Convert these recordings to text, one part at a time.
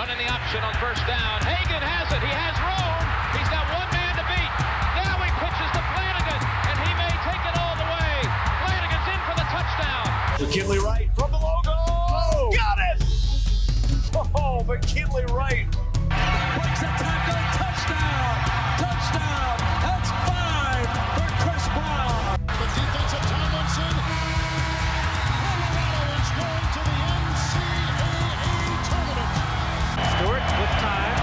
Running the option on first down. Hagan has it. He has room. He's got one man to beat. Now he pitches to Flanagan, and he may take it all the way. Flanagan's in for the touchdown. McKinley Wright from the logo. Oh, got it! Oh, McKinley Wright. Breaks a tackle. Touchdown. Touchdown. That's 5 for Chris Brown. The defensive Tomlinson. Colorado is going to the NCAA tournament. Stewart with time.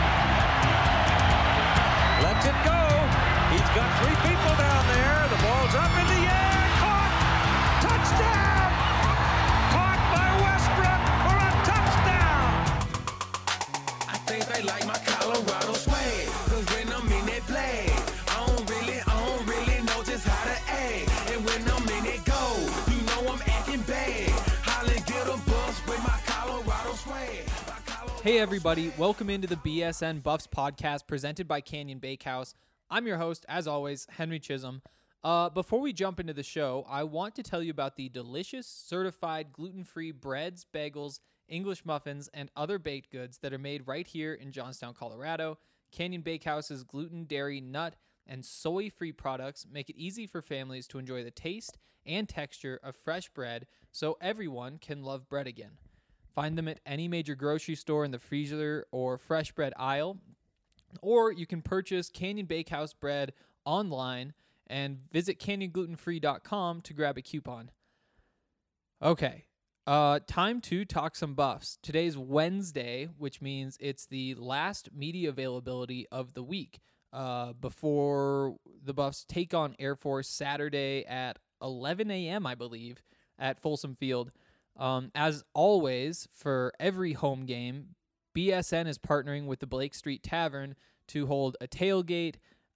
Lets it go. He's got 3 people down there. The ball's up in the air. Caught. Touchdown. Caught by Westbrook for a touchdown. I think they like my Colorado swag. Cause when I'm in that play, I don't really know just how to act. And when I'm in it go, you know I'm acting bad. Holland get a bus with my Colorado swag. Hey everybody, welcome into the BSN Buffs podcast presented by Canyon Bakehouse. I'm your host, as always, Henry Chisholm. Before we jump into the show, I want to tell you about the delicious, certified, gluten-free breads, bagels, English muffins, and other baked goods that are made right here in Johnstown, Colorado. Canyon Bakehouse's gluten, dairy, nut, and soy-free products make it easy for families to enjoy the taste and texture of fresh bread so everyone can love bread again. Find them at any major grocery store in the freezer or fresh bread aisle, or you can purchase Canyon Bakehouse bread online and visit canyonglutenfree.com to grab a coupon. Okay, time to talk some Buffs. Today's Wednesday, which means it's the last media availability of the week before the Buffs take on Air Force Saturday at 11 a.m., I believe, at Folsom Field. As always, for every home game, BSN is partnering with the Blake Street Tavern to hold a tailgate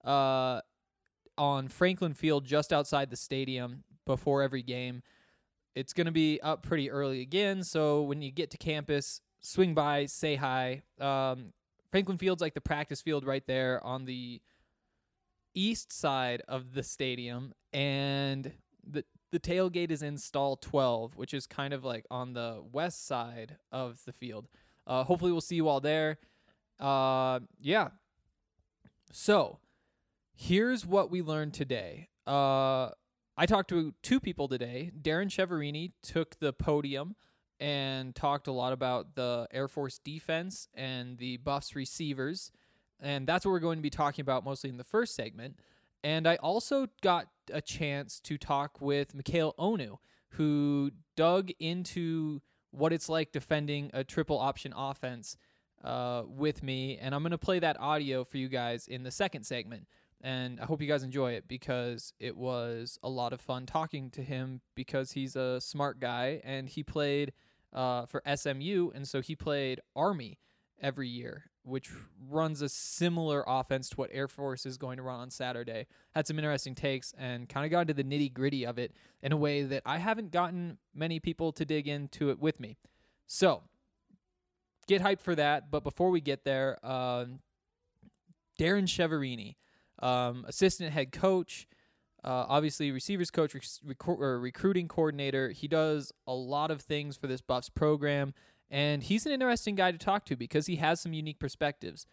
on Franklin Field just outside the stadium before every game. It's going to be up pretty early again, so when you get to campus, swing by, say hi. Franklin Field's like the practice field right there on the east side of the stadium, and the tailgate is in stall 12, which is kind of like on the west side of the field. Hopefully we'll see you all there. Yeah. So here's what we learned today. I talked to 2 people today. Darren Cheverini took the podium and talked a lot about the Air Force defense and the Buffs receivers. And that's what we're going to be talking about mostly in the first segment. And I also got a chance to talk with Mikhail Onu, who dug into what it's like defending a triple option offense with me. And I'm going to play that audio for you guys in the second segment. And I hope you guys enjoy it because it was a lot of fun talking to him because he's a smart guy and he played for SMU. And so he played Army every year, which runs a similar offense to what Air Force is going to run on Saturday. Had some interesting takes and kind of got into the nitty-gritty of it in a way that I haven't gotten many people to dig into it with me. So, get hyped for that. But before we get there, Darren Cheverini, assistant head coach, obviously receivers coach, recruiting coordinator. He does a lot of things for this Buffs program. And he's an interesting guy to talk to because he has some unique perspectives,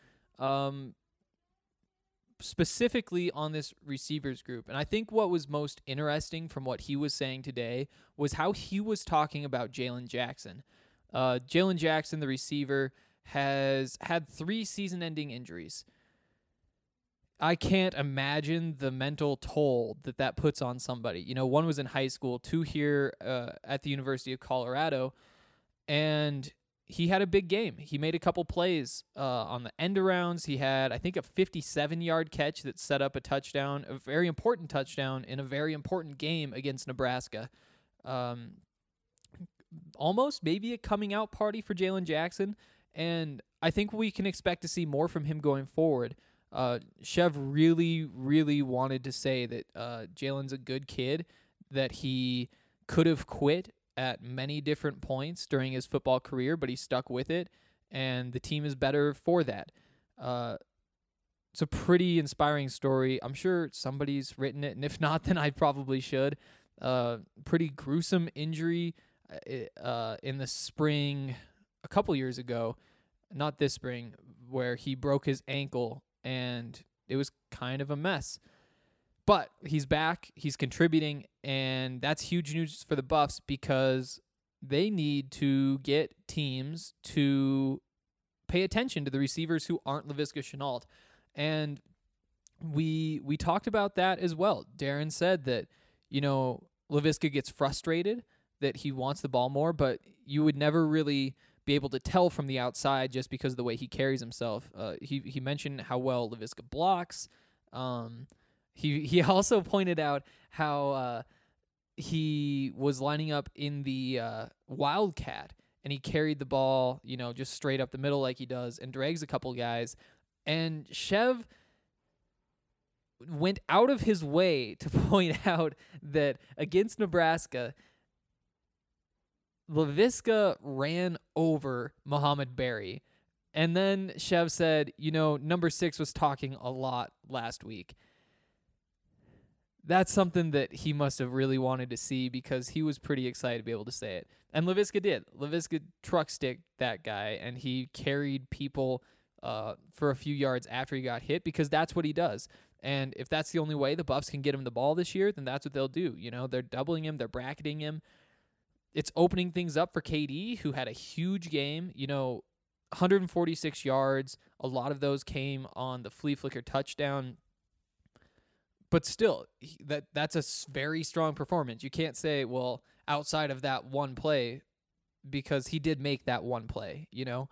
specifically on this receivers group. And I think what was most interesting from what he was saying today was how he was talking about Jalen Jackson. Jalen Jackson, the receiver, has had 3 season-ending injuries. I can't imagine the mental toll that puts on somebody. You know, 1 was in high school, 2 here at the University of Colorado. And he had a big game. He made a couple plays on the end arounds. He had, I think, a 57-yard catch that set up a touchdown, a very important touchdown in a very important game against Nebraska. Almost maybe a coming out party for Jalen Jackson. And I think we can expect to see more from him going forward. Chev really, really wanted to say that Jalen's a good kid, that he could have quit at many different points during his football career, but he stuck with it, and the team is better for that. It's a pretty inspiring story. I'm sure somebody's written it, and if not, then I probably should. Pretty gruesome injury in the spring a couple years ago. not this spring, where he broke his ankle and it was kind of a mess. But he's back, he's contributing, and that's huge news for the Buffs because they need to get teams to pay attention to the receivers who aren't Laviska Shenault. And we talked about that as well. Darren said that, Laviska gets frustrated, that he wants the ball more, but you would never really be able to tell from the outside just because of the way he carries himself. He mentioned how well Laviska blocks. He also pointed out how he was lining up in the Wildcat, and he carried the ball, just straight up the middle like he does, and drags a couple guys. And Chev went out of his way to point out that against Nebraska, Laviska ran over Muhammad Berry. And then Chev said, number 6 was talking a lot last week. That's something that he must have really wanted to see because he was pretty excited to be able to say it. And Laviska did. Laviska truck sticked that guy, and he carried people for a few yards after he got hit because that's what he does. And if that's the only way the Buffs can get him the ball this year, then that's what they'll do. They're doubling him. They're bracketing him. It's opening things up for KD, who had a huge game. 146 yards. A lot of those came on the flea flicker touchdown. But still, that's a very strong performance. You can't say, well, outside of that one play, because he did make that one play,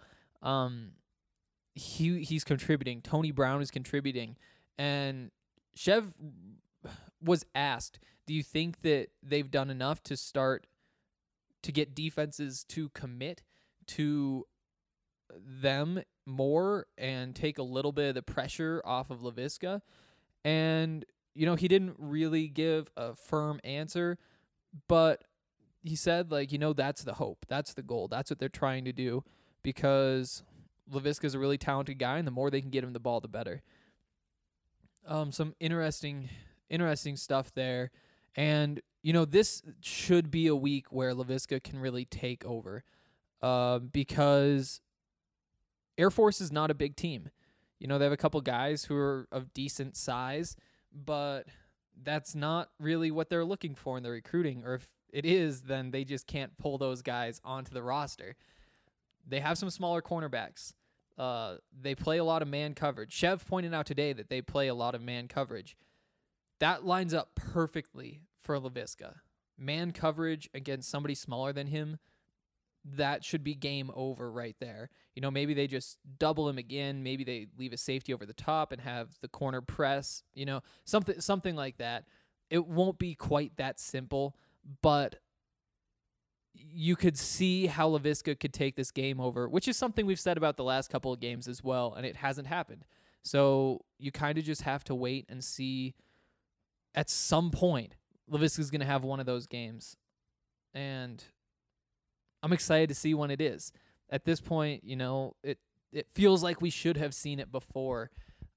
He's contributing. Tony Brown is contributing. And Chev was asked, do you think that they've done enough to start to get defenses to commit to them more and take a little bit of the pressure off of Laviska? And he didn't really give a firm answer, but he said, that's the hope. That's the goal. That's what they're trying to do because Laviska's a really talented guy, and the more they can get him the ball, the better. Some interesting stuff there. And, this should be a week where Laviska can really take over because Air Force is not a big team. They have a couple guys who are of decent size, but that's not really what they're looking for in the recruiting. Or if it is, then they just can't pull those guys onto the roster. They have some smaller cornerbacks. They play a lot of man coverage. Chev pointed out today that they play a lot of man coverage. That lines up perfectly for Laviska. Man coverage against somebody smaller than him, that should be game over right there. Maybe they just double him again. Maybe they leave a safety over the top and have the corner press, something like that. It won't be quite that simple, but you could see how Laviska could take this game over, which is something we've said about the last couple of games as well, and it hasn't happened. So you kind of just have to wait and see. At some point, Laviska's going to have one of those games, and I'm excited to see when it is. At this point, it feels like we should have seen it before.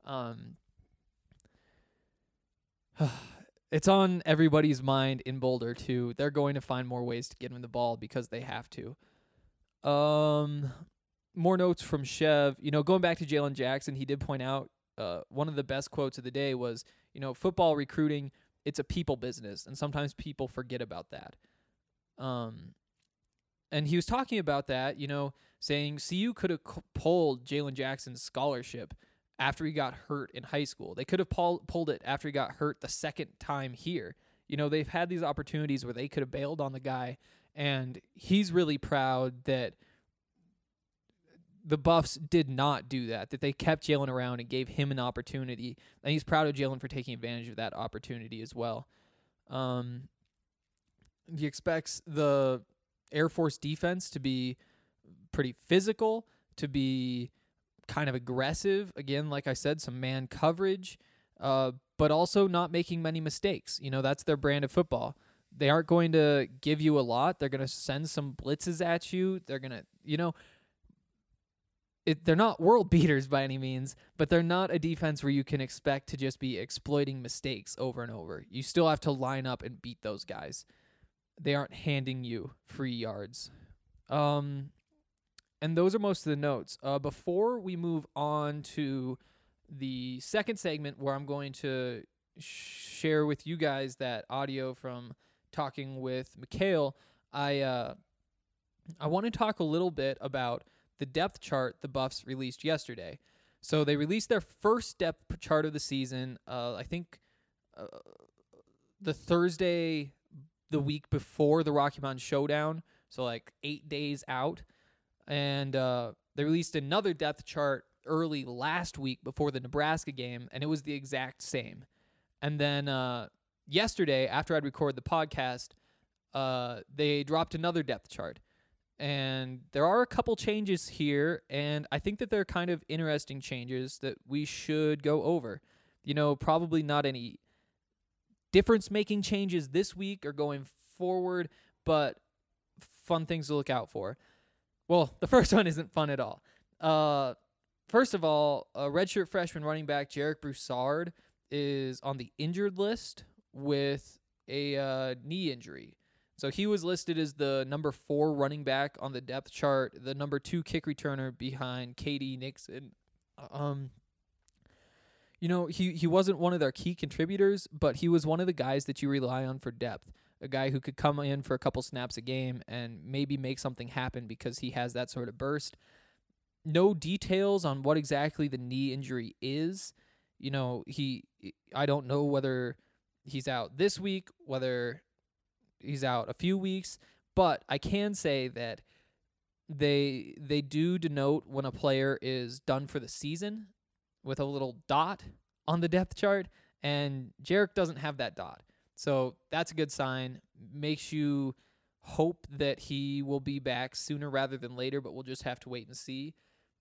It's on everybody's mind in Boulder, too. They're going to find more ways to get him the ball because they have to. More notes from Chev. Going back to Jalen Jackson, he did point out one of the best quotes of the day was, football recruiting, it's a people business, and sometimes people forget about that. And he was talking about that, saying CU could have pulled Jalen Jackson's scholarship after he got hurt in high school. They could have pulled it after he got hurt the second time here. They've had these opportunities where they could have bailed on the guy, and he's really proud that the Buffs did not do that they kept Jalen around and gave him an opportunity, and he's proud of Jalen for taking advantage of that opportunity as well. He expects the Air Force defense to be pretty physical, to be kind of aggressive. Again, like I said, some man coverage, but also not making many mistakes. That's their brand of football. They aren't going to give you a lot. They're going to send some blitzes at you. They're going to, they're not world beaters by any means, but they're not a defense where you can expect to just be exploiting mistakes over and over. You still have to line up and beat those guys. They aren't handing you free yards. And those are most of the notes. Before we move on to the second segment where I'm going to share with you guys that audio from talking with Mikhail, I want to talk a little bit about the depth chart the Buffs released yesterday. So they released their first depth chart of the season, I think the Thursday the week before the Rocky Mountain Showdown, so like 8 days out. And they released another depth chart early last week before the Nebraska game, and it was the exact same. And then yesterday, after I'd recorded the podcast, they dropped another depth chart. And there are a couple changes here, and I think that they're kind of interesting changes that we should go over. You know, probably not any difference-making changes this week or going forward, but fun things to look out for. Well, the first one isn't fun at all. First of all, redshirt freshman running back Jarek Broussard is on the injured list with a knee injury. So he was listed as the number 4 running back on the depth chart, the number 2 kick returner behind KD Nixon. You know, he wasn't one of their key contributors, but he was one of the guys that you rely on for depth. A guy who could come in for a couple snaps a game and maybe make something happen because he has that sort of burst. No details on what exactly the knee injury is. You know, I don't know whether he's out this week, whether he's out a few weeks, but I can say that they do denote when a player is done for the season with a little dot on the depth chart, and Jarek doesn't have that dot. So that's a good sign. Makes you hope that he will be back sooner rather than later, but we'll just have to wait and see.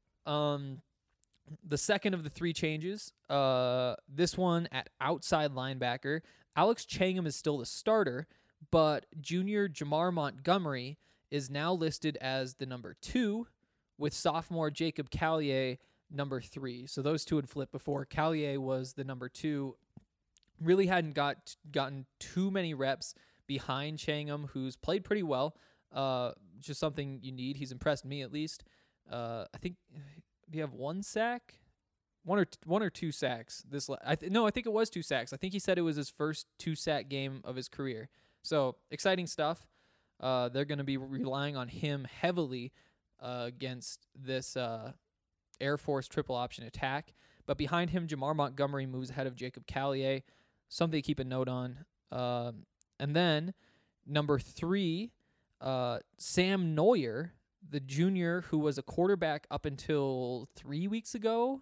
The second of the 3 changes, this one at outside linebacker, Alex Changham is still the starter, but junior Jamar Montgomery is now listed as the number 2, with sophomore Jacob Callier number 3. So those two had flipped before. Callier was the number 2. Really hadn't gotten too many reps behind Changham, who's played pretty well. Just something you need. He's impressed me at least. I think do you have 1 sack? One or 2 sacks. I think it was 2 sacks. I think he said it was his first 2-sack game of his career. So exciting stuff. They're going to be relying on him heavily against this Air Force triple option attack. But behind him, Jamar Montgomery moves ahead of Jacob Callier. Something to keep a note on. And then number 3, Sam Neuer, the junior who was a quarterback up until 4 weeks ago,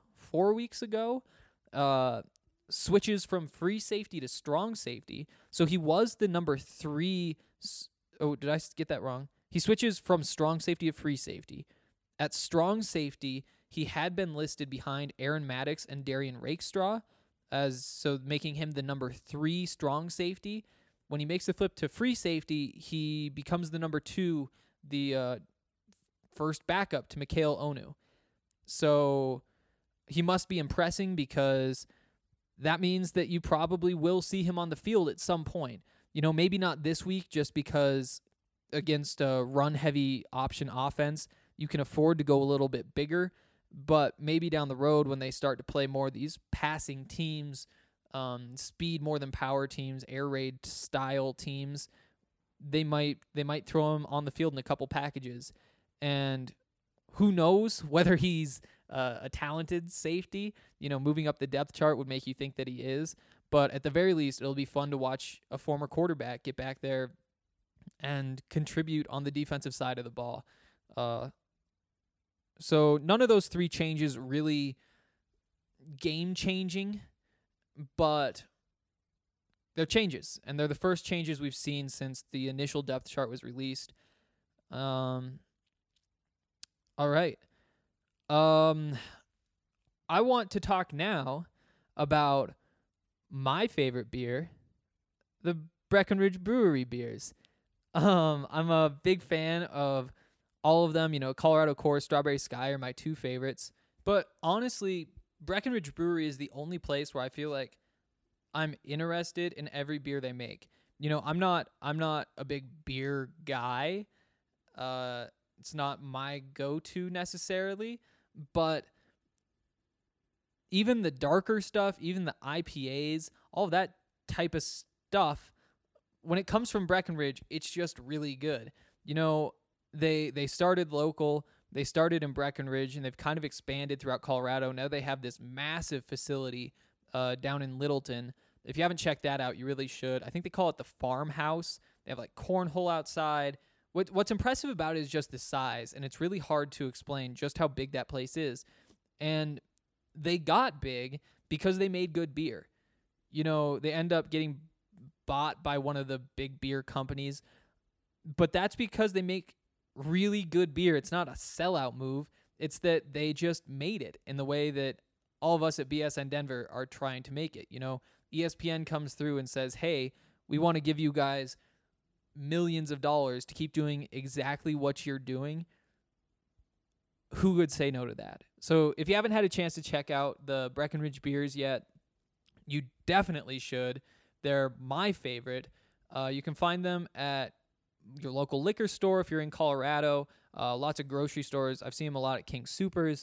switches from free safety to strong safety. So he was the number 3. Oh, did I get that wrong? He switches from strong safety to free safety. At strong safety, he had been listed behind Aaron Maddox and Darian Rakestraw, making him the number 3 strong safety. When he makes the flip to free safety, he becomes the number 2, the first backup to Mikhail Onu. So he must be impressing, because that means that you probably will see him on the field at some point. You know, maybe not this week, just because against a run-heavy option offense, you can afford to go a little bit bigger. But maybe down the road, when they start to play more of these passing teams, speed more than power teams, air raid style teams, they might throw him on the field in a couple packages. And who knows whether he's a talented safety. You know, moving up the depth chart would make you think that he is. But at the very least, it'll be fun to watch a former quarterback get back there and contribute on the defensive side of the ball. So none of those 3 changes really game-changing, but they're changes, and they're the first changes we've seen since the initial depth chart was released. All right. I want to talk now about my favorite beer, the Breckenridge Brewery beers. I'm a big fan of all of them. You know, Colorado Core, Strawberry Sky are my 2 favorites. But honestly, Breckenridge Brewery is the only place where I feel like I'm interested in every beer they make. You know, I'm not a big beer guy. It's not my go-to necessarily, but even the darker stuff, even the IPAs, all of that type of stuff, when it comes from Breckenridge, it's just really good. You know, they started local, they started in Breckenridge, and they've kind of expanded throughout Colorado. Now they have this massive facility down in Littleton. If you haven't checked that out, you really should. I think they call it the Farmhouse. They have like cornhole outside. What's impressive about it is just the size, and it's really hard to explain just how big that place is. And they got big because they made good beer. You know, they end up getting bought by one of the big beer companies, but that's because they make really good beer. It's not a sellout move. It's that they just made it in the way that all of us at BSN Denver are trying to make it. You know, ESPN comes through and says, hey, we want to give you guys millions of dollars to keep doing exactly what you're doing. Who would say no to that? So if you haven't had a chance to check out the Breckenridge beers yet, you definitely should. They're my favorite. You can find them at your local liquor store if you're in Colorado. Lots of grocery stores. I've seen them a lot at King Soopers.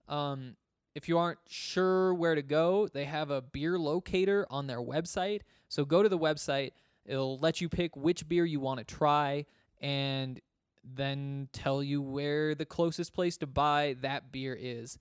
If you aren't sure where to go, they have a beer locator on their website. So go to the website. It'll let you pick which beer you want to try and then tell you where the closest place to buy that beer is.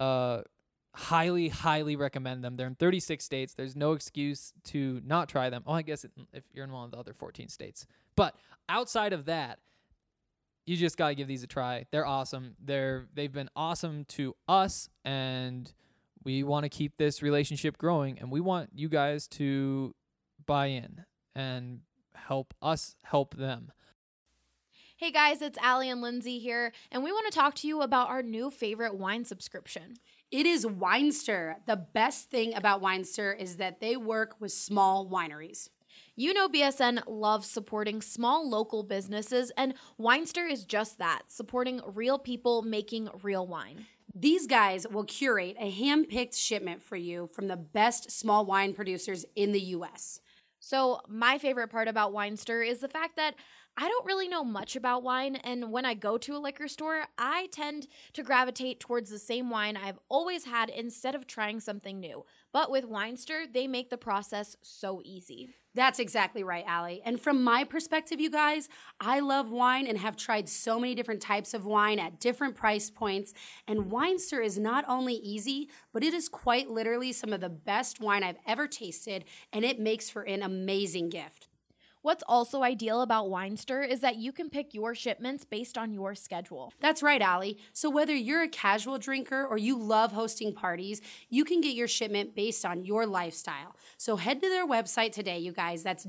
Highly, highly recommend them. They're in 36 states. There's no excuse to not try them. Oh, I guess if you're in one of the other 14 states. But outside of that, you just got to give these a try. They're awesome. They've been awesome to us, and we want to keep this relationship growing, and we want you guys to buy in and help us help them. Hey guys, it's Allie and Lindsay here, and we want to talk to you about our new favorite wine subscription. It is Winester. The best thing about Winester is that they work with small wineries. You know BSN loves supporting small local businesses, and Winester is just that, supporting real people making real wine. These guys will curate a hand-picked shipment for you from the best small wine producers in the U.S. So my favorite part about Winester is the fact that I don't really know much about wine, and when I go to a liquor store, I tend to gravitate towards the same wine I've always had instead of trying something new. But with Winester, they make the process so easy. That's exactly right, Allie. And from my perspective, you guys, I love wine and have tried so many different types of wine at different price points. And Winester is not only easy, but it is quite literally some of the best wine I've ever tasted, and it makes for an amazing gift. What's also ideal about Winester is that you can pick your shipments based on your schedule. That's right, Allie. So whether you're a casual drinker or you love hosting parties, you can get your shipment based on your lifestyle. So head to their website today, you guys. That's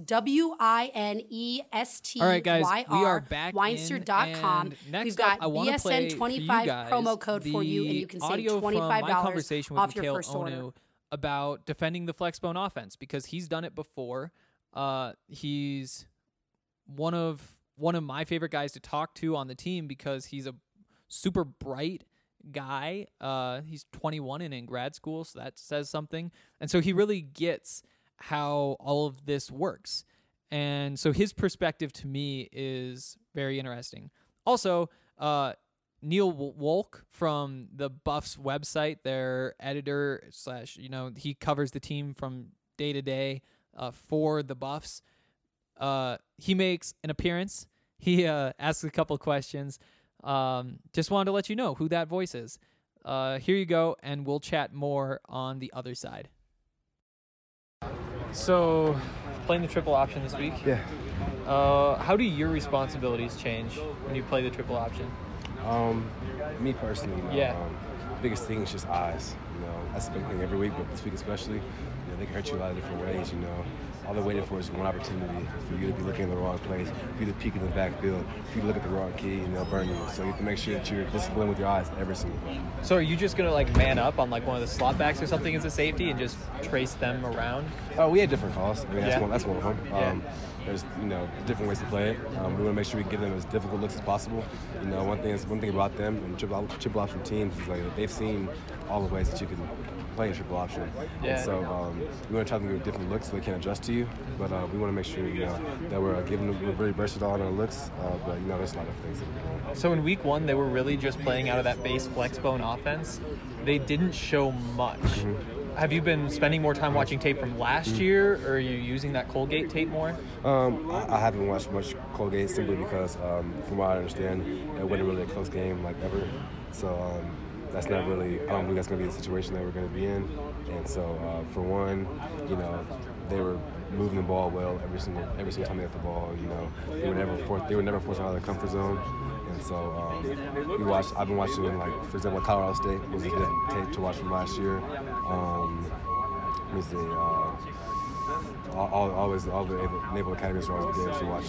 WINESTYR. All right, guys, we are back Winester.com. in, and next We've got up, I want to play for you BSN25 guys promo code for you, and you can save audio from my $25 conversation with off your Mikhail first order. Onu about defending the Flexbone offense, because he's done it before. He's one of my favorite guys to talk to on the team because he's a super bright guy. He's 21 and in grad school, so that says something. And so he really gets how all of this works. And so his perspective to me is very interesting. Also, Neil Wolk from the Buffs website, their editor / he covers the team from day to day for the Buffs. He makes an appearance. He asks a couple questions. Just wanted to let you know who that voice is. Here you go, and we'll chat more on the other side. So, playing the triple option this week. Yeah. How do your responsibilities change when you play the triple option? Me personally, biggest thing is just eyes. That's the big thing every week, but this week especially. They can hurt you a lot of different ways. All they're waiting for is one opportunity for you to be looking in the wrong place, for you to peek in the backfield, for you to look at the wrong key, and they'll burn you. So you have to make sure that you're disciplined with your eyes every single day. So are you just gonna man up on one of the slot backs or something as a safety and just trace them around? We had different calls. That's one of them. There's different ways to play it. We want to make sure we give them as difficult looks as possible. One thing about them and triple option teams is they've seen all the ways that you can play a triple option. Yeah. And so we want to try to give different looks so they can adjust to you. But we want to make sure that we're giving them, we're very versatile in our looks. But there's a lot of things that we're doing. So in week 1, they were really just playing out of that base flex bone offense. They didn't show much. Have you been spending more time watching tape from last year, or are you using that Colgate tape more? I haven't watched much Colgate simply because, from what I understand, it wasn't really a close game like ever. So that's not really. I don't think that's going to be the situation that we're going to be in. And so, for one, they were moving the ball well every single time they had the ball. They were never forced out of their comfort zone. And so I've been watching, like, for example, Colorado State was a good tape to watch from last year. Let me see. All the Naval Academies are always good to watch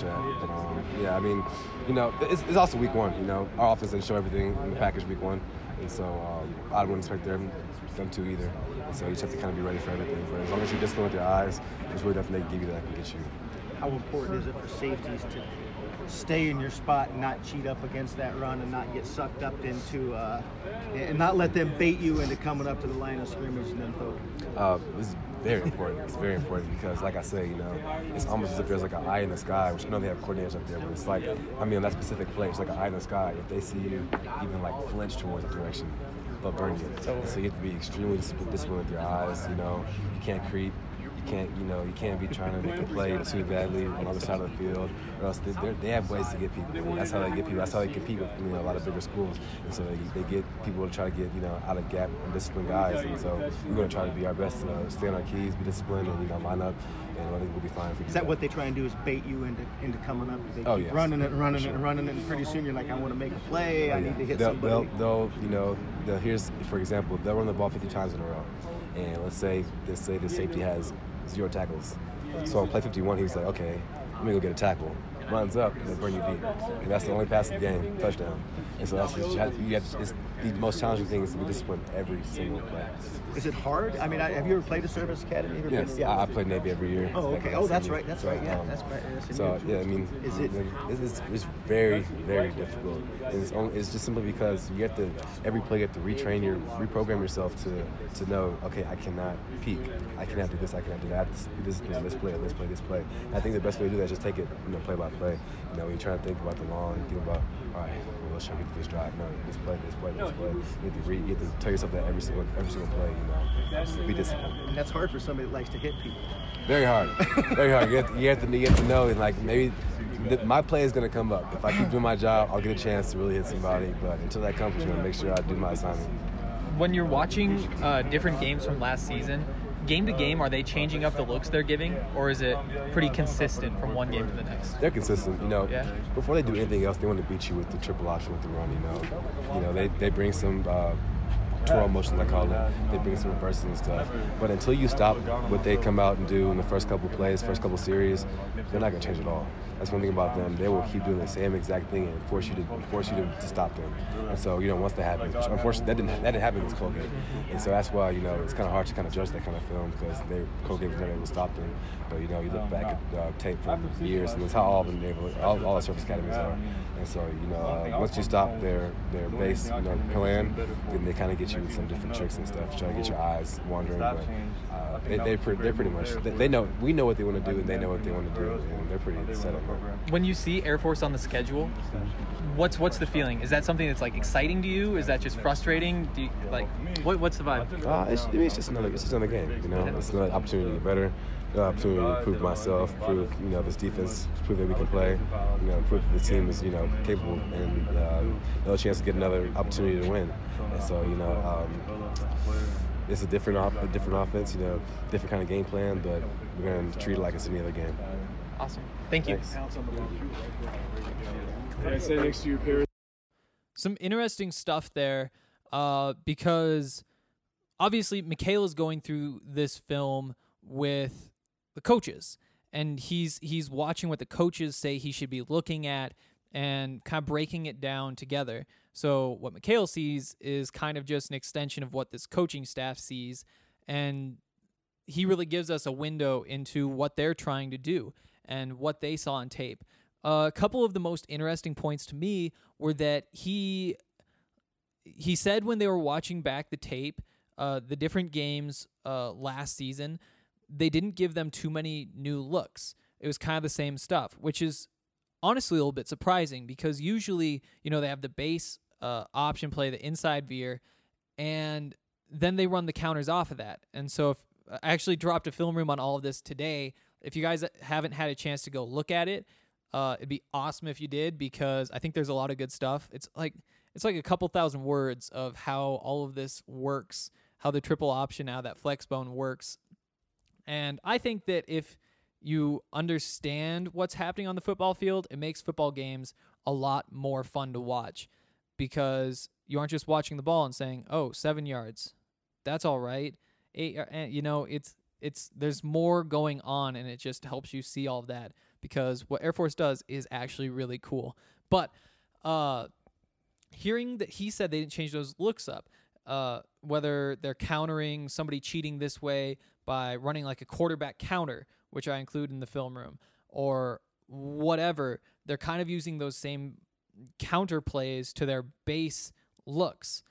that. But it's also week 1. Our offense didn't show everything in the package week 1, and so I wouldn't expect them to either. And so you just have to kind of be ready for everything. But as long as you're disciplined with your eyes, there's really nothing they can give you that can get you. How important is it for safeties to stay in your spot and not cheat up against that run and not get sucked up into and not let them bait you into coming up to the line of scrimmage and then poking? This is very important. It's very important because, like I say, it's almost as if there's like an eye in the sky, which I know they have coordinators up there, but it's like, on that specific play, it's like an eye in the sky. If they see you even like flinch towards the direction, they'll burn you. And so you have to be extremely disciplined with your eyes. You can't creep. You can't be trying to make a play too badly on the other side of the field, or else they have ways to get people. And that's how they get people. That's how they compete with a lot of bigger schools. And so they get people to try to get out of gap and disciplined guys. And so we're going to try to be our best to stay on our keys, be disciplined, and line up. And I think we'll be fine. Is that what they try and do? Is bait you into coming up? They keep yes. running it, and pretty soon you're like, I want to make a play. I need to hit somebody. Here's, for example, they'll run the ball 50 times in a row, and let's say the safety has 0 tackles. So on play 51, he was like, okay, let me go get a tackle. Runs up and they bring you deep. And that's the only pass of the game, touchdown. And so that's it's the most challenging thing is to be disciplined every single play. Is it hard? Have you ever played a service academy? Yes, I played Navy every year. Oh, okay. Oh, that's right. That's right. Yeah, that's right. So it's very, very difficult. And it's just simply because you have to every play you have to reprogram yourself to know, okay, I cannot peek, I cannot do this, I cannot do that. This play. And I think the best way to do that is just take it, play by play. When you're trying to think about the long, think about, all right, well, let's try to get to this drive. No, this play. You have to tell yourself that every single play. Be disciplined. And that's hard for somebody that likes to hit people. Very hard. Very hard. You have to know, and like maybe my play is going to come up. If I keep doing my job, I'll get a chance to really hit somebody. But until that comes, I'm going to make sure I do my assignment. When you're watching different games from last season, game to game, are they changing up the looks they're giving, or is it pretty consistent from one game to the next? They're consistent. Before they do anything else, they want to beat you with the triple option with the run. They bring some twirl motions, I call it. They bring some reverses and stuff. But until you stop what they come out and do in the first couple plays, first couple series, they're not going to change at all. That's one thing about them. They will keep doing the same exact thing and force you to stop them. And so, once that happens, unfortunately, that didn't happen against Colgate. And so that's why, it's kind of hard to kind of judge that kind of film because Colgate was never able to stop them. But, you look back at tape from years, and that's how all the service academies are. And so, once you stop their base, plan, then they kind of get you with some different tricks and stuff, try to get your eyes wandering. But they're pretty much, they know, we know what they want to do, and they know what they want to do, and they're pretty set up. When you see Air Force on the schedule, what's the feeling? Is that something that's like exciting to you? Is that just frustrating? Do you, what's the vibe? It's just another game. It's another opportunity to get better. Opportunity to prove myself, prove this defense, prove that we can play, prove that the team is capable, and another chance to get another opportunity to win. And so it's a different offense, different kind of game plan, but we're going to treat it like it's any other game. Awesome. Thank you. Some interesting stuff there, because obviously Michaela's going through this film with the coaches, and he's watching what the coaches say he should be looking at and kind of breaking it down together. So what Michaela sees is kind of just an extension of what this coaching staff sees, and he really gives us a window into what they're trying to do and what they saw on tape. A couple of the most interesting points to me were that he said when they were watching back the tape, the different games last season, they didn't give them too many new looks. It was kind of the same stuff, which is honestly a little bit surprising because usually, they have the base option play, the inside veer, and then they run the counters off of that. And so if I actually dropped a film room on all of this today. If you guys haven't had a chance to go look at it, it'd be awesome if you did because I think there's a lot of good stuff. It's like a couple thousand words of how all of this works, how the triple option, how that flex bone works. And I think that if you understand what's happening on the football field, it makes football games a lot more fun to watch because you aren't just watching the ball and saying, oh, 7 yards, that's all right. 8, it's there's more going on, and it just helps you see all of that because what Air Force does is actually really cool. But hearing that he said they didn't change those looks up, whether they're countering somebody cheating this way by running like a quarterback counter, which I include in the film room, or whatever, they're kind of using those same counter plays to their base looks.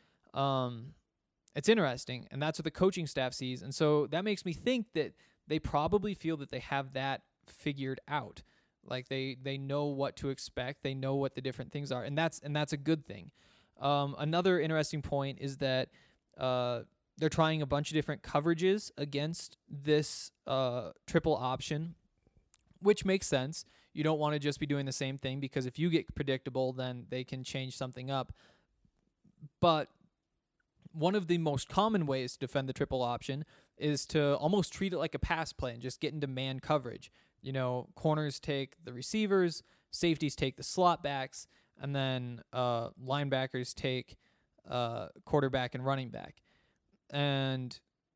It's interesting, and that's what the coaching staff sees. And so that makes me think that they probably feel that they have that figured out. Like they know what to expect. They know what the different things are, and that's a good thing. Another interesting point is that they're trying a bunch of different coverages against this triple option, which makes sense. You don't want to just be doing the same thing because if you get predictable, then they can change something up. But one of the most common ways to defend the triple option is to almost treat it like a pass play and just get into man coverage. Corners take the receivers, safeties take the slot backs, and then linebackers take quarterback and running back. And,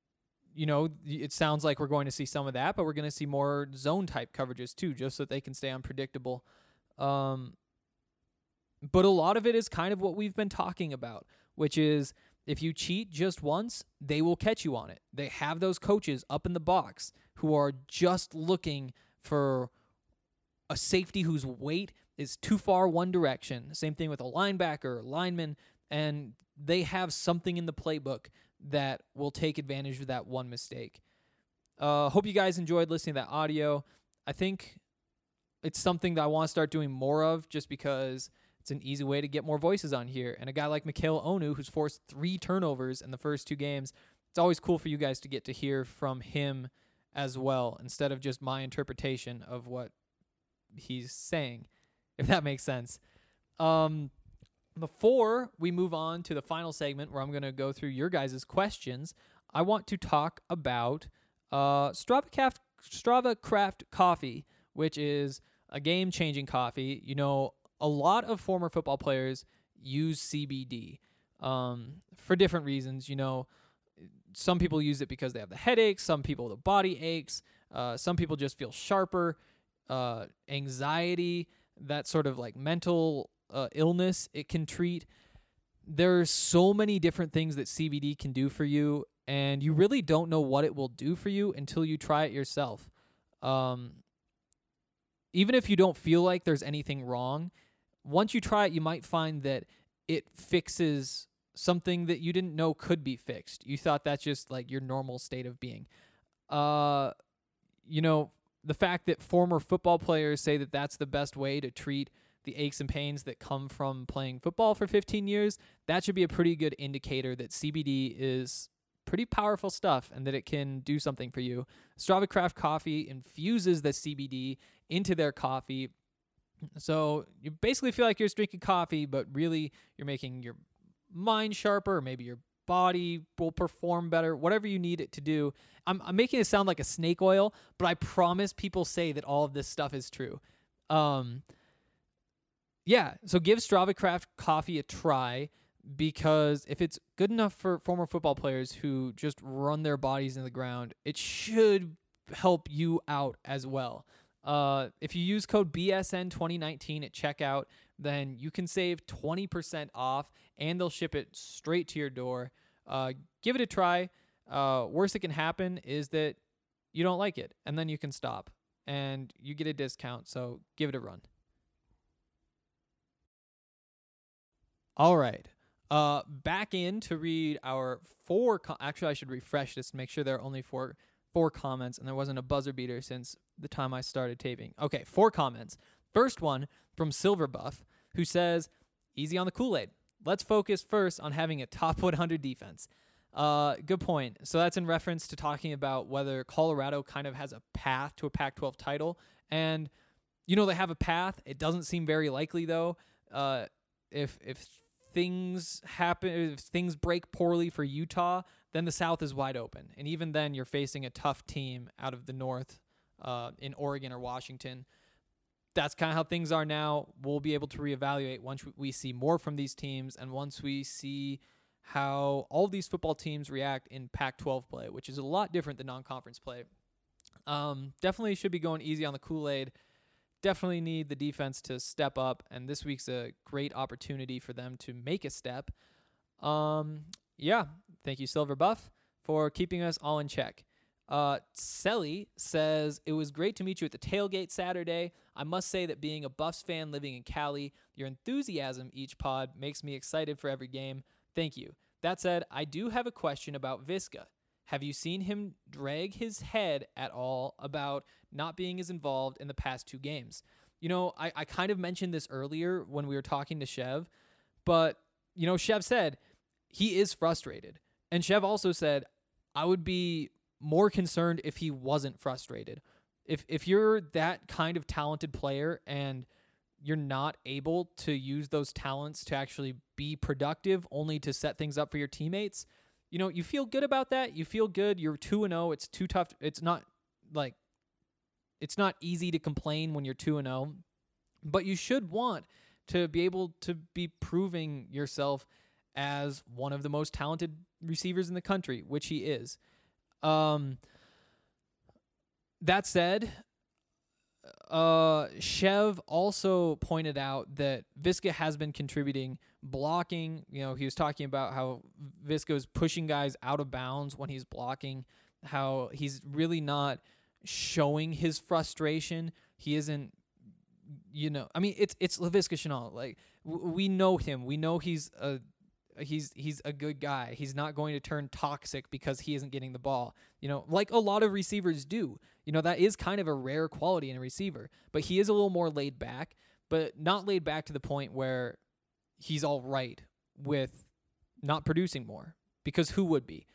it sounds like we're going to see some of that, but we're going to see more zone-type coverages too, just so that they can stay unpredictable. But a lot of it is kind of what we've been talking about, which is if you cheat just once, they will catch you on it. They have those coaches up in the box who are just looking for a safety whose weight is too far one direction. Same thing with a linebacker, lineman, and they have something in the playbook that will take advantage of that one mistake. Hope you guys enjoyed listening to that audio. I think it's something that I want to start doing more of just because it's an easy way to get more voices on here. And a guy like Mikhail Onu, who's forced 3 turnovers in the first 2 games, it's always cool for you guys to get to hear from him as well, instead of just my interpretation of what he's saying, if that makes sense. Before we move on to the final segment where I'm going to go through your guys' questions, I want to talk about Strava Craft Coffee, which is a game-changing coffee. A lot of former football players use CBD for different reasons. Some people use it because they have the headaches, some people the body aches, some people just feel sharper, anxiety, that sort of like mental illness it can treat. There's so many different things that CBD can do for you, and you really don't know what it will do for you until you try it yourself. Even if you don't feel like there's anything wrong, once you try it, you might find that it fixes something that you didn't know could be fixed. You thought that's just like your normal state of being. The fact that former football players say that that's the best way to treat the aches and pains that come from playing football for 15 years, that should be a pretty good indicator that CBD is pretty powerful stuff and that it can do something for you. Strava Craft Coffee infuses the CBD into their coffee. So you basically feel like you're just drinking coffee, but really you're making your mind sharper, or maybe your body will perform better, whatever you need it to do. I'm making it sound like a snake oil, but I promise people say that all of this stuff is true. So give Strava Craft Coffee a try, because if it's good enough for former football players who just run their bodies into the ground, it should help you out as well. If you use code BSN2019 at checkout, then you can save 20% off, and they'll ship it straight to your door. Give it a try. Worst that can happen is that you don't like it, and then you can stop, and you get a discount, so give it a run. All right. Back in to read our actually, I should refresh this to make sure there are only four comments, and there wasn't a buzzer beater since the time I started taping. Okay, 4 comments. First one from Silverbuff, who says, easy on the Kool-Aid. Let's focus first on having a top 100 defense. Good point. So that's in reference to talking about whether Colorado kind of has a path to a Pac-12 title. And, they have a path. It doesn't seem very likely, though. If things happen, if things break poorly for Utah, then the South is wide open. And even then, you're facing a tough team out of the North in Oregon or Washington. That's kind of how things are now. We'll be able to reevaluate once we see more from these teams and once we see how all of these football teams react in Pac-12 play, which is a lot different than non-conference play. Definitely should be going easy on the Kool-Aid. Definitely need the defense to step up, and this week's a great opportunity for them to make a step. Yeah, thank you, Silverbuff, for keeping us all in check. Selly says, it was great to meet you at the tailgate Saturday. I must say that being a Buffs fan living in Cali, your enthusiasm each pod makes me excited for every game. Thank you. That said, I do have a question about Viska. Have you seen him drag his head at all about not being as involved in the past 2 games? I kind of mentioned this earlier when we were talking to Chev, but, Chev said he is frustrated. And Chev also said, I would be more concerned if he wasn't frustrated. If you're that kind of talented player and you're not able to use those talents to actually be productive, only to set things up for your teammates, you feel good about that. You feel good. You're 2-0. It's too tough. It's not easy to complain when you're 2-0, but you should want to be able to be proving yourself as one of the most talented receivers in the country, which he is. That said, Chev also pointed out that Viska has been contributing blocking. He was talking about how Viska is pushing guys out of bounds when he's blocking, how he's really not showing his frustration. He isn't, it's Laviska Shenault. Like, we know him. We know he's a good guy. He's not going to turn toxic because he isn't getting the ball. Like a lot of receivers do. That is kind of a rare quality in a receiver. But he is a little more laid back, but not laid back to the point where he's all right with not producing more. Because who would be?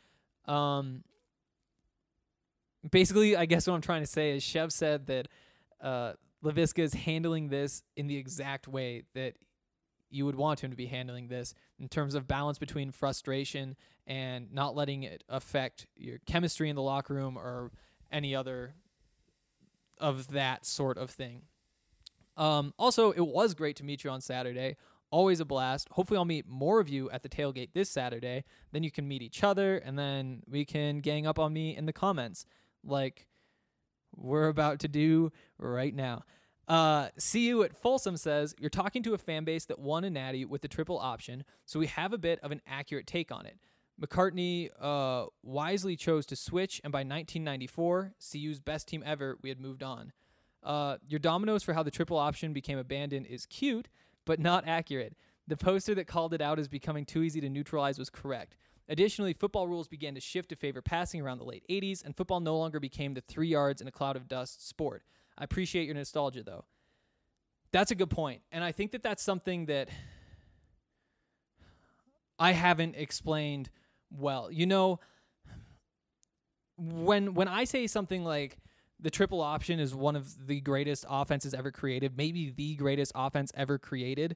Basically, I guess what I'm trying to say is Chev said that Laviska is handling this in the exact way that you would want him to be handling this, in terms of balance between frustration and not letting it affect your chemistry in the locker room or any other of that sort of thing. Also, it was great to meet you on Saturday. Always a blast. Hopefully I'll meet more of you at the tailgate this Saturday. Then you can meet each other, and then we can gang up on me in the comments like we're about to do right now. See you at Folsom says, you're talking to a fan base that won a natty with the triple option, so we have a bit of an accurate take on it. McCartney wisely chose to switch, and by 1994, CU's best team ever, we had moved on. Your dominoes for how the triple option became abandoned is cute, but not accurate. The poster that called it out as becoming too easy to neutralize was correct. Additionally, football rules began to shift to favor passing around the late 80s, and football no longer became the 3 yards in a cloud of dust sport. I appreciate your nostalgia, though. That's a good point. And I think that that's something that I haven't explained well. When I say something like the triple option is one of the greatest offenses ever created, maybe the greatest offense ever created,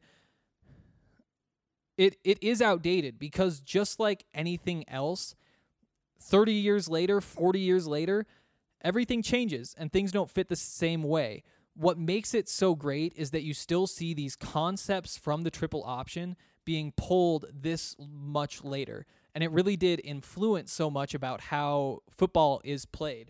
it is outdated, because just like anything else, 30 years later, 40 years later, everything changes and things don't fit the same way. What makes it so great is that you still see these concepts from the triple option being pulled this much later. And it really did influence so much about how football is played.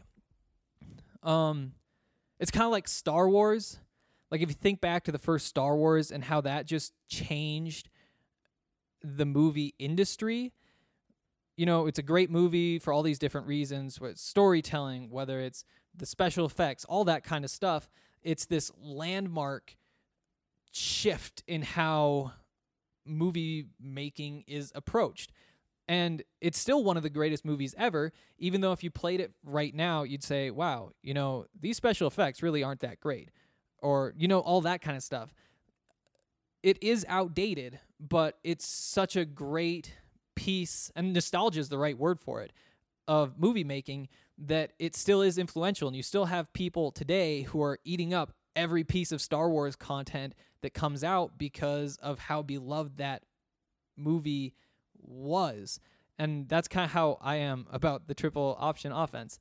It's kind of like Star Wars. Like, if you think back to the first Star Wars and how that just changed the movie industry, it's a great movie for all these different reasons, whether it's storytelling, whether it's the special effects, all that kind of stuff. It's this landmark shift in how movie making is approached. And it's still one of the greatest movies ever, even though if you played it right now, you'd say, wow, these special effects really aren't that great. Or, all that kind of stuff. It is outdated, but it's such a great piece, and nostalgia is the right word for it, of movie making, that it still is influential. And you still have people today who are eating up every piece of Star Wars content that comes out because of how beloved that movie was. And that's kind of how I am about the triple option offense.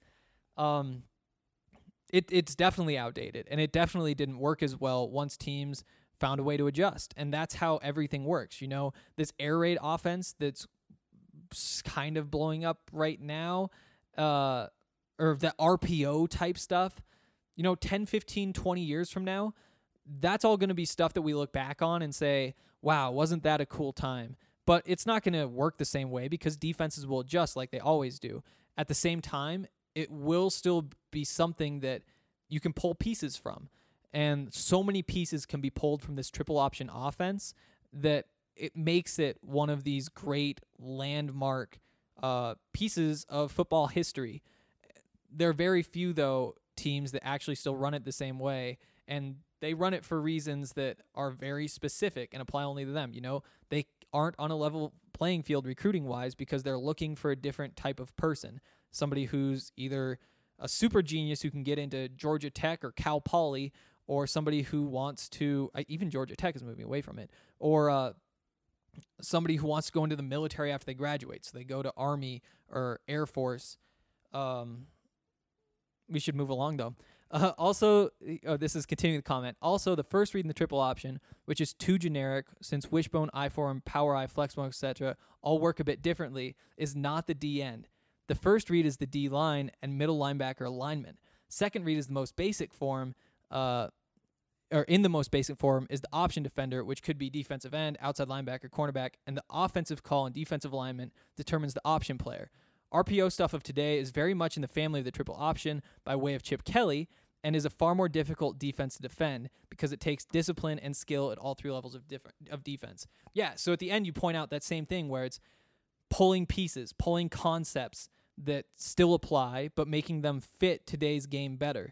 It's definitely outdated, and it definitely didn't work as well once teams found a way to adjust. And that's how everything works. This air raid offense that's kind of blowing up right now, or the RPO type stuff, 10, 15, 20 years from now, that's all going to be stuff that we look back on and say, wow, wasn't that a cool time? But it's not going to work the same way because defenses will adjust like they always do. At the same time, it will still be something that you can pull pieces from. And so many pieces can be pulled from this triple option offense that it makes it one of these great landmark pieces of football history. There are very few, though, teams that actually still run it the same way, and they run it for reasons that are very specific and apply only to them. They aren't on a level playing field recruiting-wise because they're looking for a different type of person, somebody who's either a super genius who can get into Georgia Tech or Cal Poly, or somebody who wants to, even Georgia Tech is moving away from it, or somebody who wants to go into the military after they graduate, so they go to Army or Air Force. We should move along, though. Also, this is continuing the comment. Also, the first read in the triple option, which is too generic, since wishbone, I-form, power I, flexbone, etc., all work a bit differently, is not the D end. The first read is the D line and middle linebacker alignment. Second read is the most basic form, or in the most basic form, is the option defender, which could be defensive end, outside linebacker, cornerback, and the offensive call and defensive alignment determines the option player. RPO stuff of today is very much in the family of the triple option by way of Chip Kelly, and is a far more difficult defense to defend because it takes discipline and skill at all three levels of defense. Yeah, so at the end you point out that same thing where it's pulling pieces, pulling concepts that still apply, but making them fit today's game better.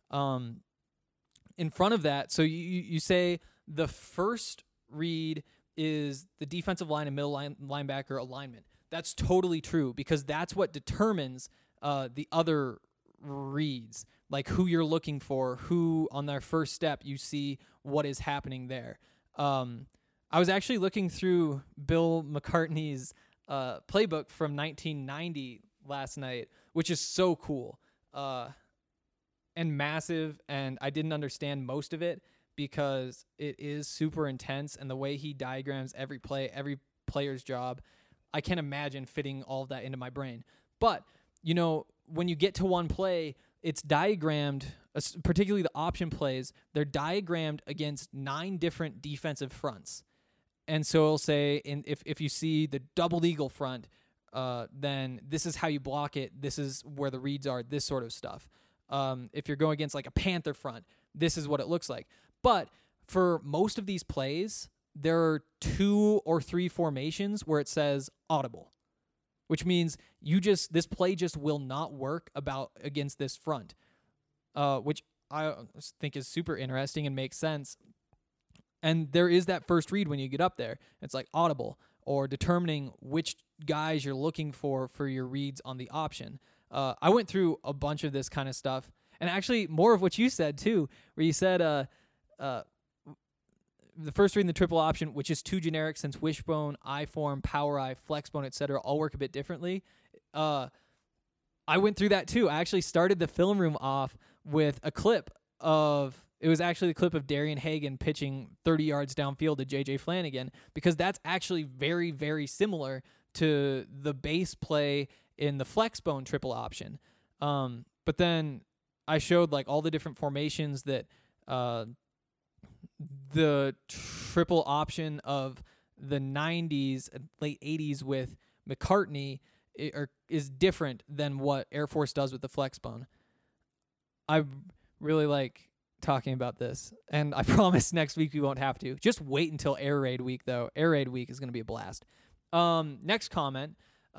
In front of that, so you say the first read is the defensive line and middle linebacker alignment. That's totally true because that's what determines the other reads, like who you're looking for, who on their first step you see what is happening there. I was actually looking through Bill McCartney's playbook from 1990 last night, which is so cool and massive, and I didn't understand most of it because it is super intense, and the way he diagrams every play, every player's job, I can't imagine fitting all of that into my brain. But, when you get to one play, it's diagrammed, particularly the option plays, they're diagrammed against 9 different defensive fronts. And so it'll say, if you see the double eagle front, then this is how you block it. This is where the reads are, this sort of stuff. If you're going against like a panther front, this is what it looks like. But for most of these plays, there are 2 or 3 formations where it says audible, which means this play just will not work against this front, which I think is super interesting and makes sense. And there is that first read when you get up there. It's like audible, or determining which guys you're looking for your reads on the option. I went through a bunch of this kind of stuff, and actually more of what you said too, where you said the first read in the triple option, which is too generic since wishbone, I-form, power I, flexbone, etc., all work a bit differently. I went through that too. I actually started the film room off with a clip it was actually the clip of Darian Hagan pitching 30 yards downfield to J.J. Flanagan, because that's actually very, very similar to the base play in the flexbone triple option. But then I showed like all the different formations that the triple option of the 90s and late 80s with McCartney is different than what Air Force does with the flexbone. I really like talking about this, and I promise next week we won't have to. Just wait until Air Raid week, though. Air Raid week is going to be a blast. Next comment,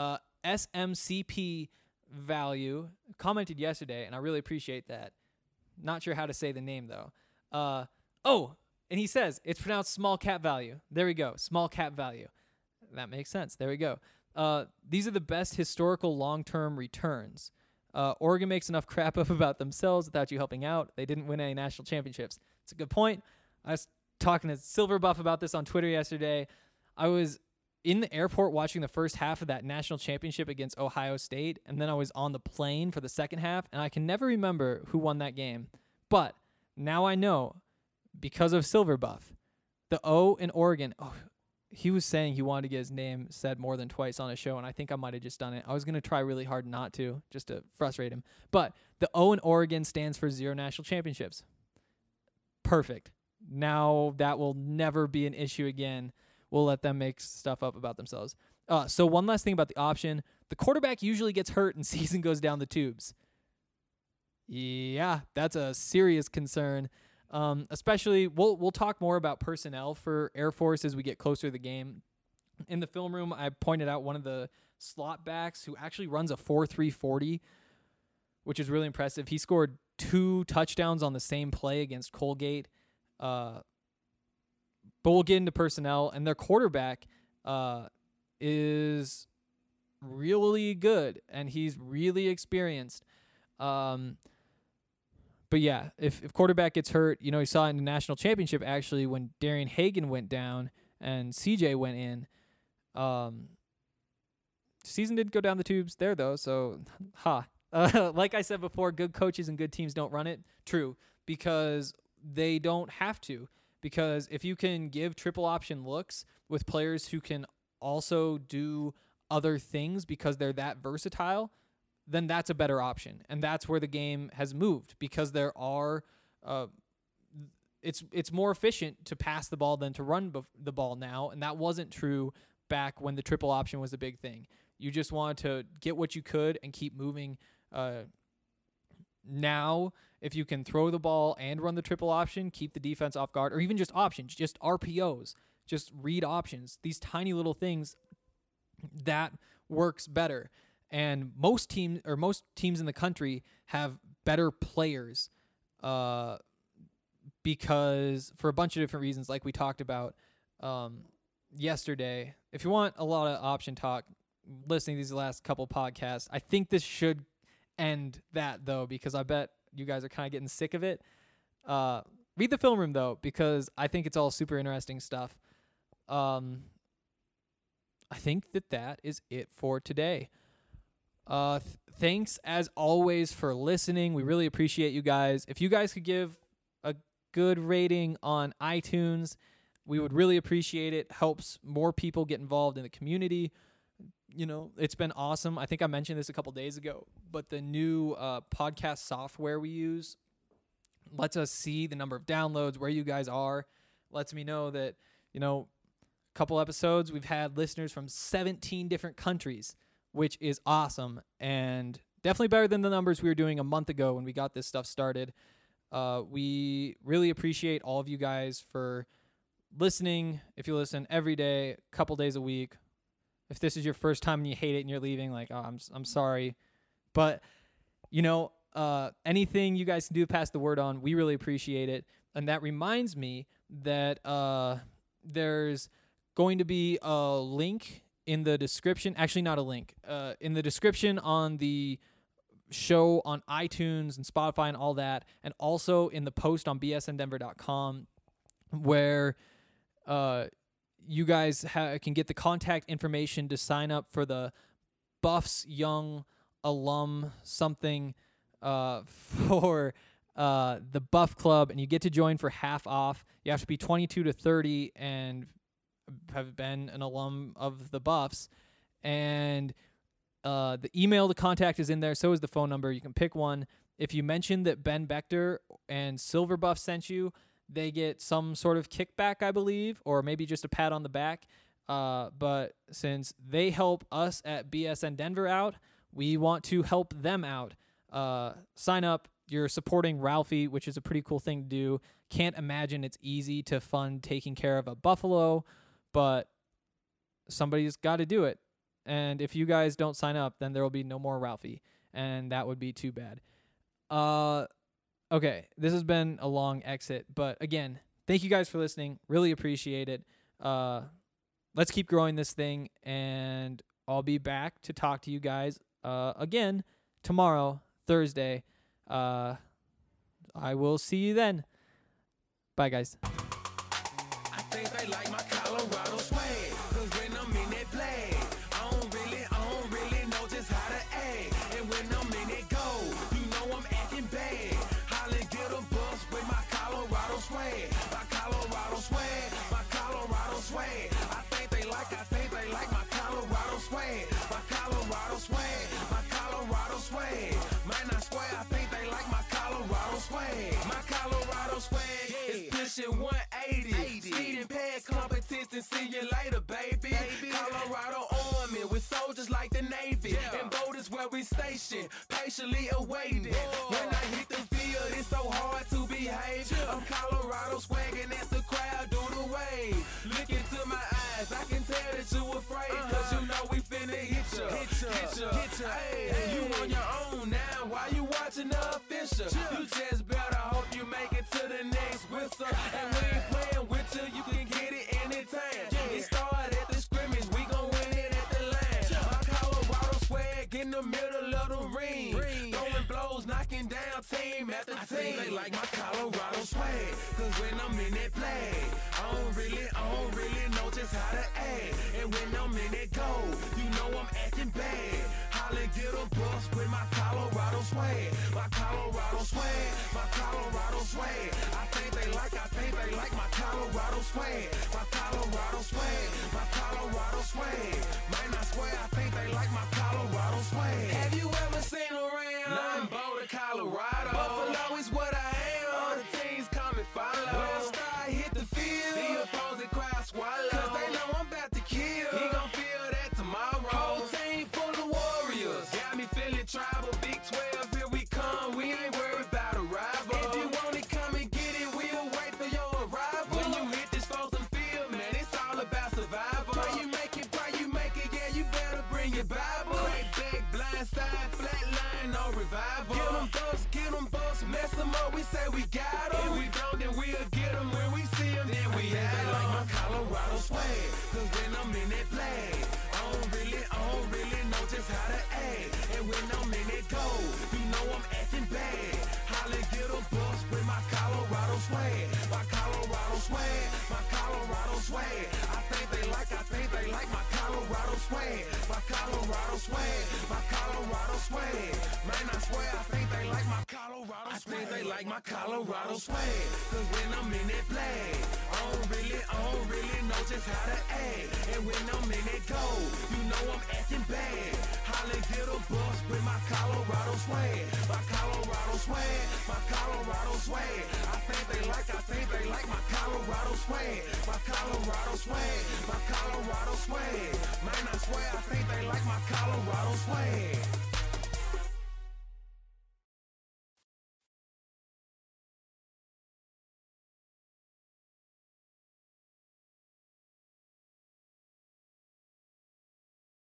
SMCP Value commented yesterday, and I really appreciate that. Not sure how to say the name, though. And he says, it's pronounced small cap value. There we go, small cap value. That makes sense. There we go. These are the best historical long-term returns. Oregon makes enough crap up about themselves without you helping out. They didn't win any national championships. It's a good point. I was talking to Silver Buff about this on Twitter yesterday. I was in the airport watching the first half of that national championship against Ohio State, and then I was on the plane for the second half, and I can never remember who won that game. But now I know, because of Silver Buff, the O in Oregon, he was saying he wanted to get his name said more than twice on a show, and I think I might have just done it. I was going to try really hard not to, just to frustrate him. But the O in Oregon stands for 0 national championships. Perfect. Now that will never be an issue again. We'll let them make stuff up about themselves. So one last thing about the option. The quarterback usually gets hurt and season goes down the tubes. Yeah, that's a serious concern. Especially, we'll talk more about personnel for Air Force as we get closer to the game. In the film room, I pointed out one of the slot backs who actually runs a 4.3 40, which is really impressive. He scored 2 touchdowns on the same play against Colgate. But we'll get into personnel, and their quarterback is really good, and he's really experienced. But yeah, if quarterback gets hurt, you saw in the national championship actually when Darian Hagan went down and CJ went in. Season didn't go down the tubes there though, so like I said before, good coaches and good teams don't run it. True, because they don't have to. Because if you can give triple option looks with players who can also do other things because they're that versatile, then that's a better option. And that's where the game has moved, because there are it's more efficient to pass the ball than to run the ball now, and that wasn't true back when the triple option was a big thing. You just wanted to get what you could and keep moving. Now, if you can throw the ball and run the triple option, keep the defense off guard, or even just options, just RPOs, just read options, these tiny little things, that works better. And most teams in the country have better players because for a bunch of different reasons, like we talked about yesterday. If you want a lot of option talk, listening to these last couple podcasts, I think this should end that, though, because I bet you guys are kind of getting sick of it. Read the film room, though, because I think it's all super interesting stuff. I think that is it for today. Thanks, as always, for listening. We really appreciate you guys. If you guys could give a good rating on iTunes, we would really appreciate it. Helps more people get involved in the community. It's been awesome. I think I mentioned this a couple days ago, but the new podcast software we use lets us see the number of downloads, where you guys are. Lets me know that, a couple episodes, we've had listeners from 17 different countries, which is awesome and definitely better than the numbers we were doing a month ago when we got this stuff started. We really appreciate all of you guys for listening. If you listen every day, a couple days a week, if this is your first time and you hate it and you're leaving, I'm sorry. But, anything you guys can do to pass the word on, we really appreciate it. And that reminds me that there's going to be a link in the description. Actually, not a link. In the description on the show on iTunes and Spotify and all that, and also in the post on bsndenver.com, where you guys can get the contact information to sign up for the Buffs Young Alum something for the Buff Club, and you get to join for half off. You have to be 22 to 30 and have been an alum of the Buffs. And the email to contact is in there. So is the phone number. You can pick one. If you mention that Ben Bechter and Silver Buff sent you, they get some sort of kickback, I believe, or maybe just a pat on the back. But since they help us at BSN Denver out, we want to help them out. Sign up You're supporting Ralphie, which is a pretty cool thing to do. Can't imagine it's easy to fund taking care of a buffalo, but somebody's got to do it. And if you guys don't sign up, then there will be no more Ralphie, and that would be too bad. Okay, this has been a long exit, but again, thank you guys for listening. Really appreciate it. Let's keep growing this thing, and I'll be back to talk to you guys again tomorrow, Thursday. I will see you then. Bye, guys. I think they like my Colorado swag, 'cause when I'm in that play, I don't really know just how to act. And when I'm in that go, you know I'm acting bad. Holla, get a bus with my Colorado swag. My Colorado swag, my Colorado swag. I think they like my Colorado swag. My Colorado swag, my Colorado swag. Man, I swear, I think they like my Colorado swag. My Colorado swag is pushing 180. Speeding past competition, see you later, baby. Colorado Army with soldiers like the Navy. And boat is where we station, patiently awaiting. When I hit the field, it's so hard to behave. I'm Colorado swagging as the crowd do the wave. Look into my eyes, I can tell that you afraid. 'Cause you know we finna hit ya. Hey, you on your own now, why you watching the official? You just better hope you make it to the next whistle. And we ain't playing with you, you can get it anytime. It started at the scrimmage, we gon' win it at the line. My Colorado swag in the middle of the ring. Throwing blows, knocking down team after team. I think they like my Colorado swag, 'cause when I'm in that play, I don't really know just how to act. And when I'm in that go, you know I'm acting bad. Holla, get a bus with my Colorado swag. My Colorado swag, my Colorado swag. I think they like my Colorado swag. My Colorado swag, my Colorado swag. Man, I swear, I think they like my Colorado swag. Have you ever seen around? Nothing but Colorado. Buffalo is what I am. All the teams come and follow. When I start hit the field, the opposing crowd swallow. 'Cause they know I'm about to kill. He gon' feel that tomorrow. Whole team full of warriors. Got me feeling tribal. Big 12, here we come. We ain't worried about a rival. If you want it, come and get it. We'll wait for your arrival. When you hit this frozen field, man, it's all about survival. Pray you make it, yeah, you better bring your Bible. Crack back, blind side, flat line, no revival. Get them busts, mess them up, we say we got them. If we don't, then we'll get them. When we see them, then we have them. They like my Colorado swag, 'cause when I'm in that flag, I don't really know just how to act. And when I'm in that go, you know I'm acting bad. Holla, get a bus with my Colorado swag. My Colorado swag, my Colorado swag. I think they like my Colorado swag. My Colorado swag, my Colorado swag. Man, I swear, I think they like my Colorado swag. I think they like my Colorado swag, 'cause when I'm in that flag, I don't really know just how to act. And when I'm in that go, you know I'm acting bad. Holla, get a bus with my Colorado swag. My Colorado swag, my Colorado swag. I think they like my Colorado swag. My Colorado swag, my Colorado swag. Man, I swear, I think they like my Colorado swag.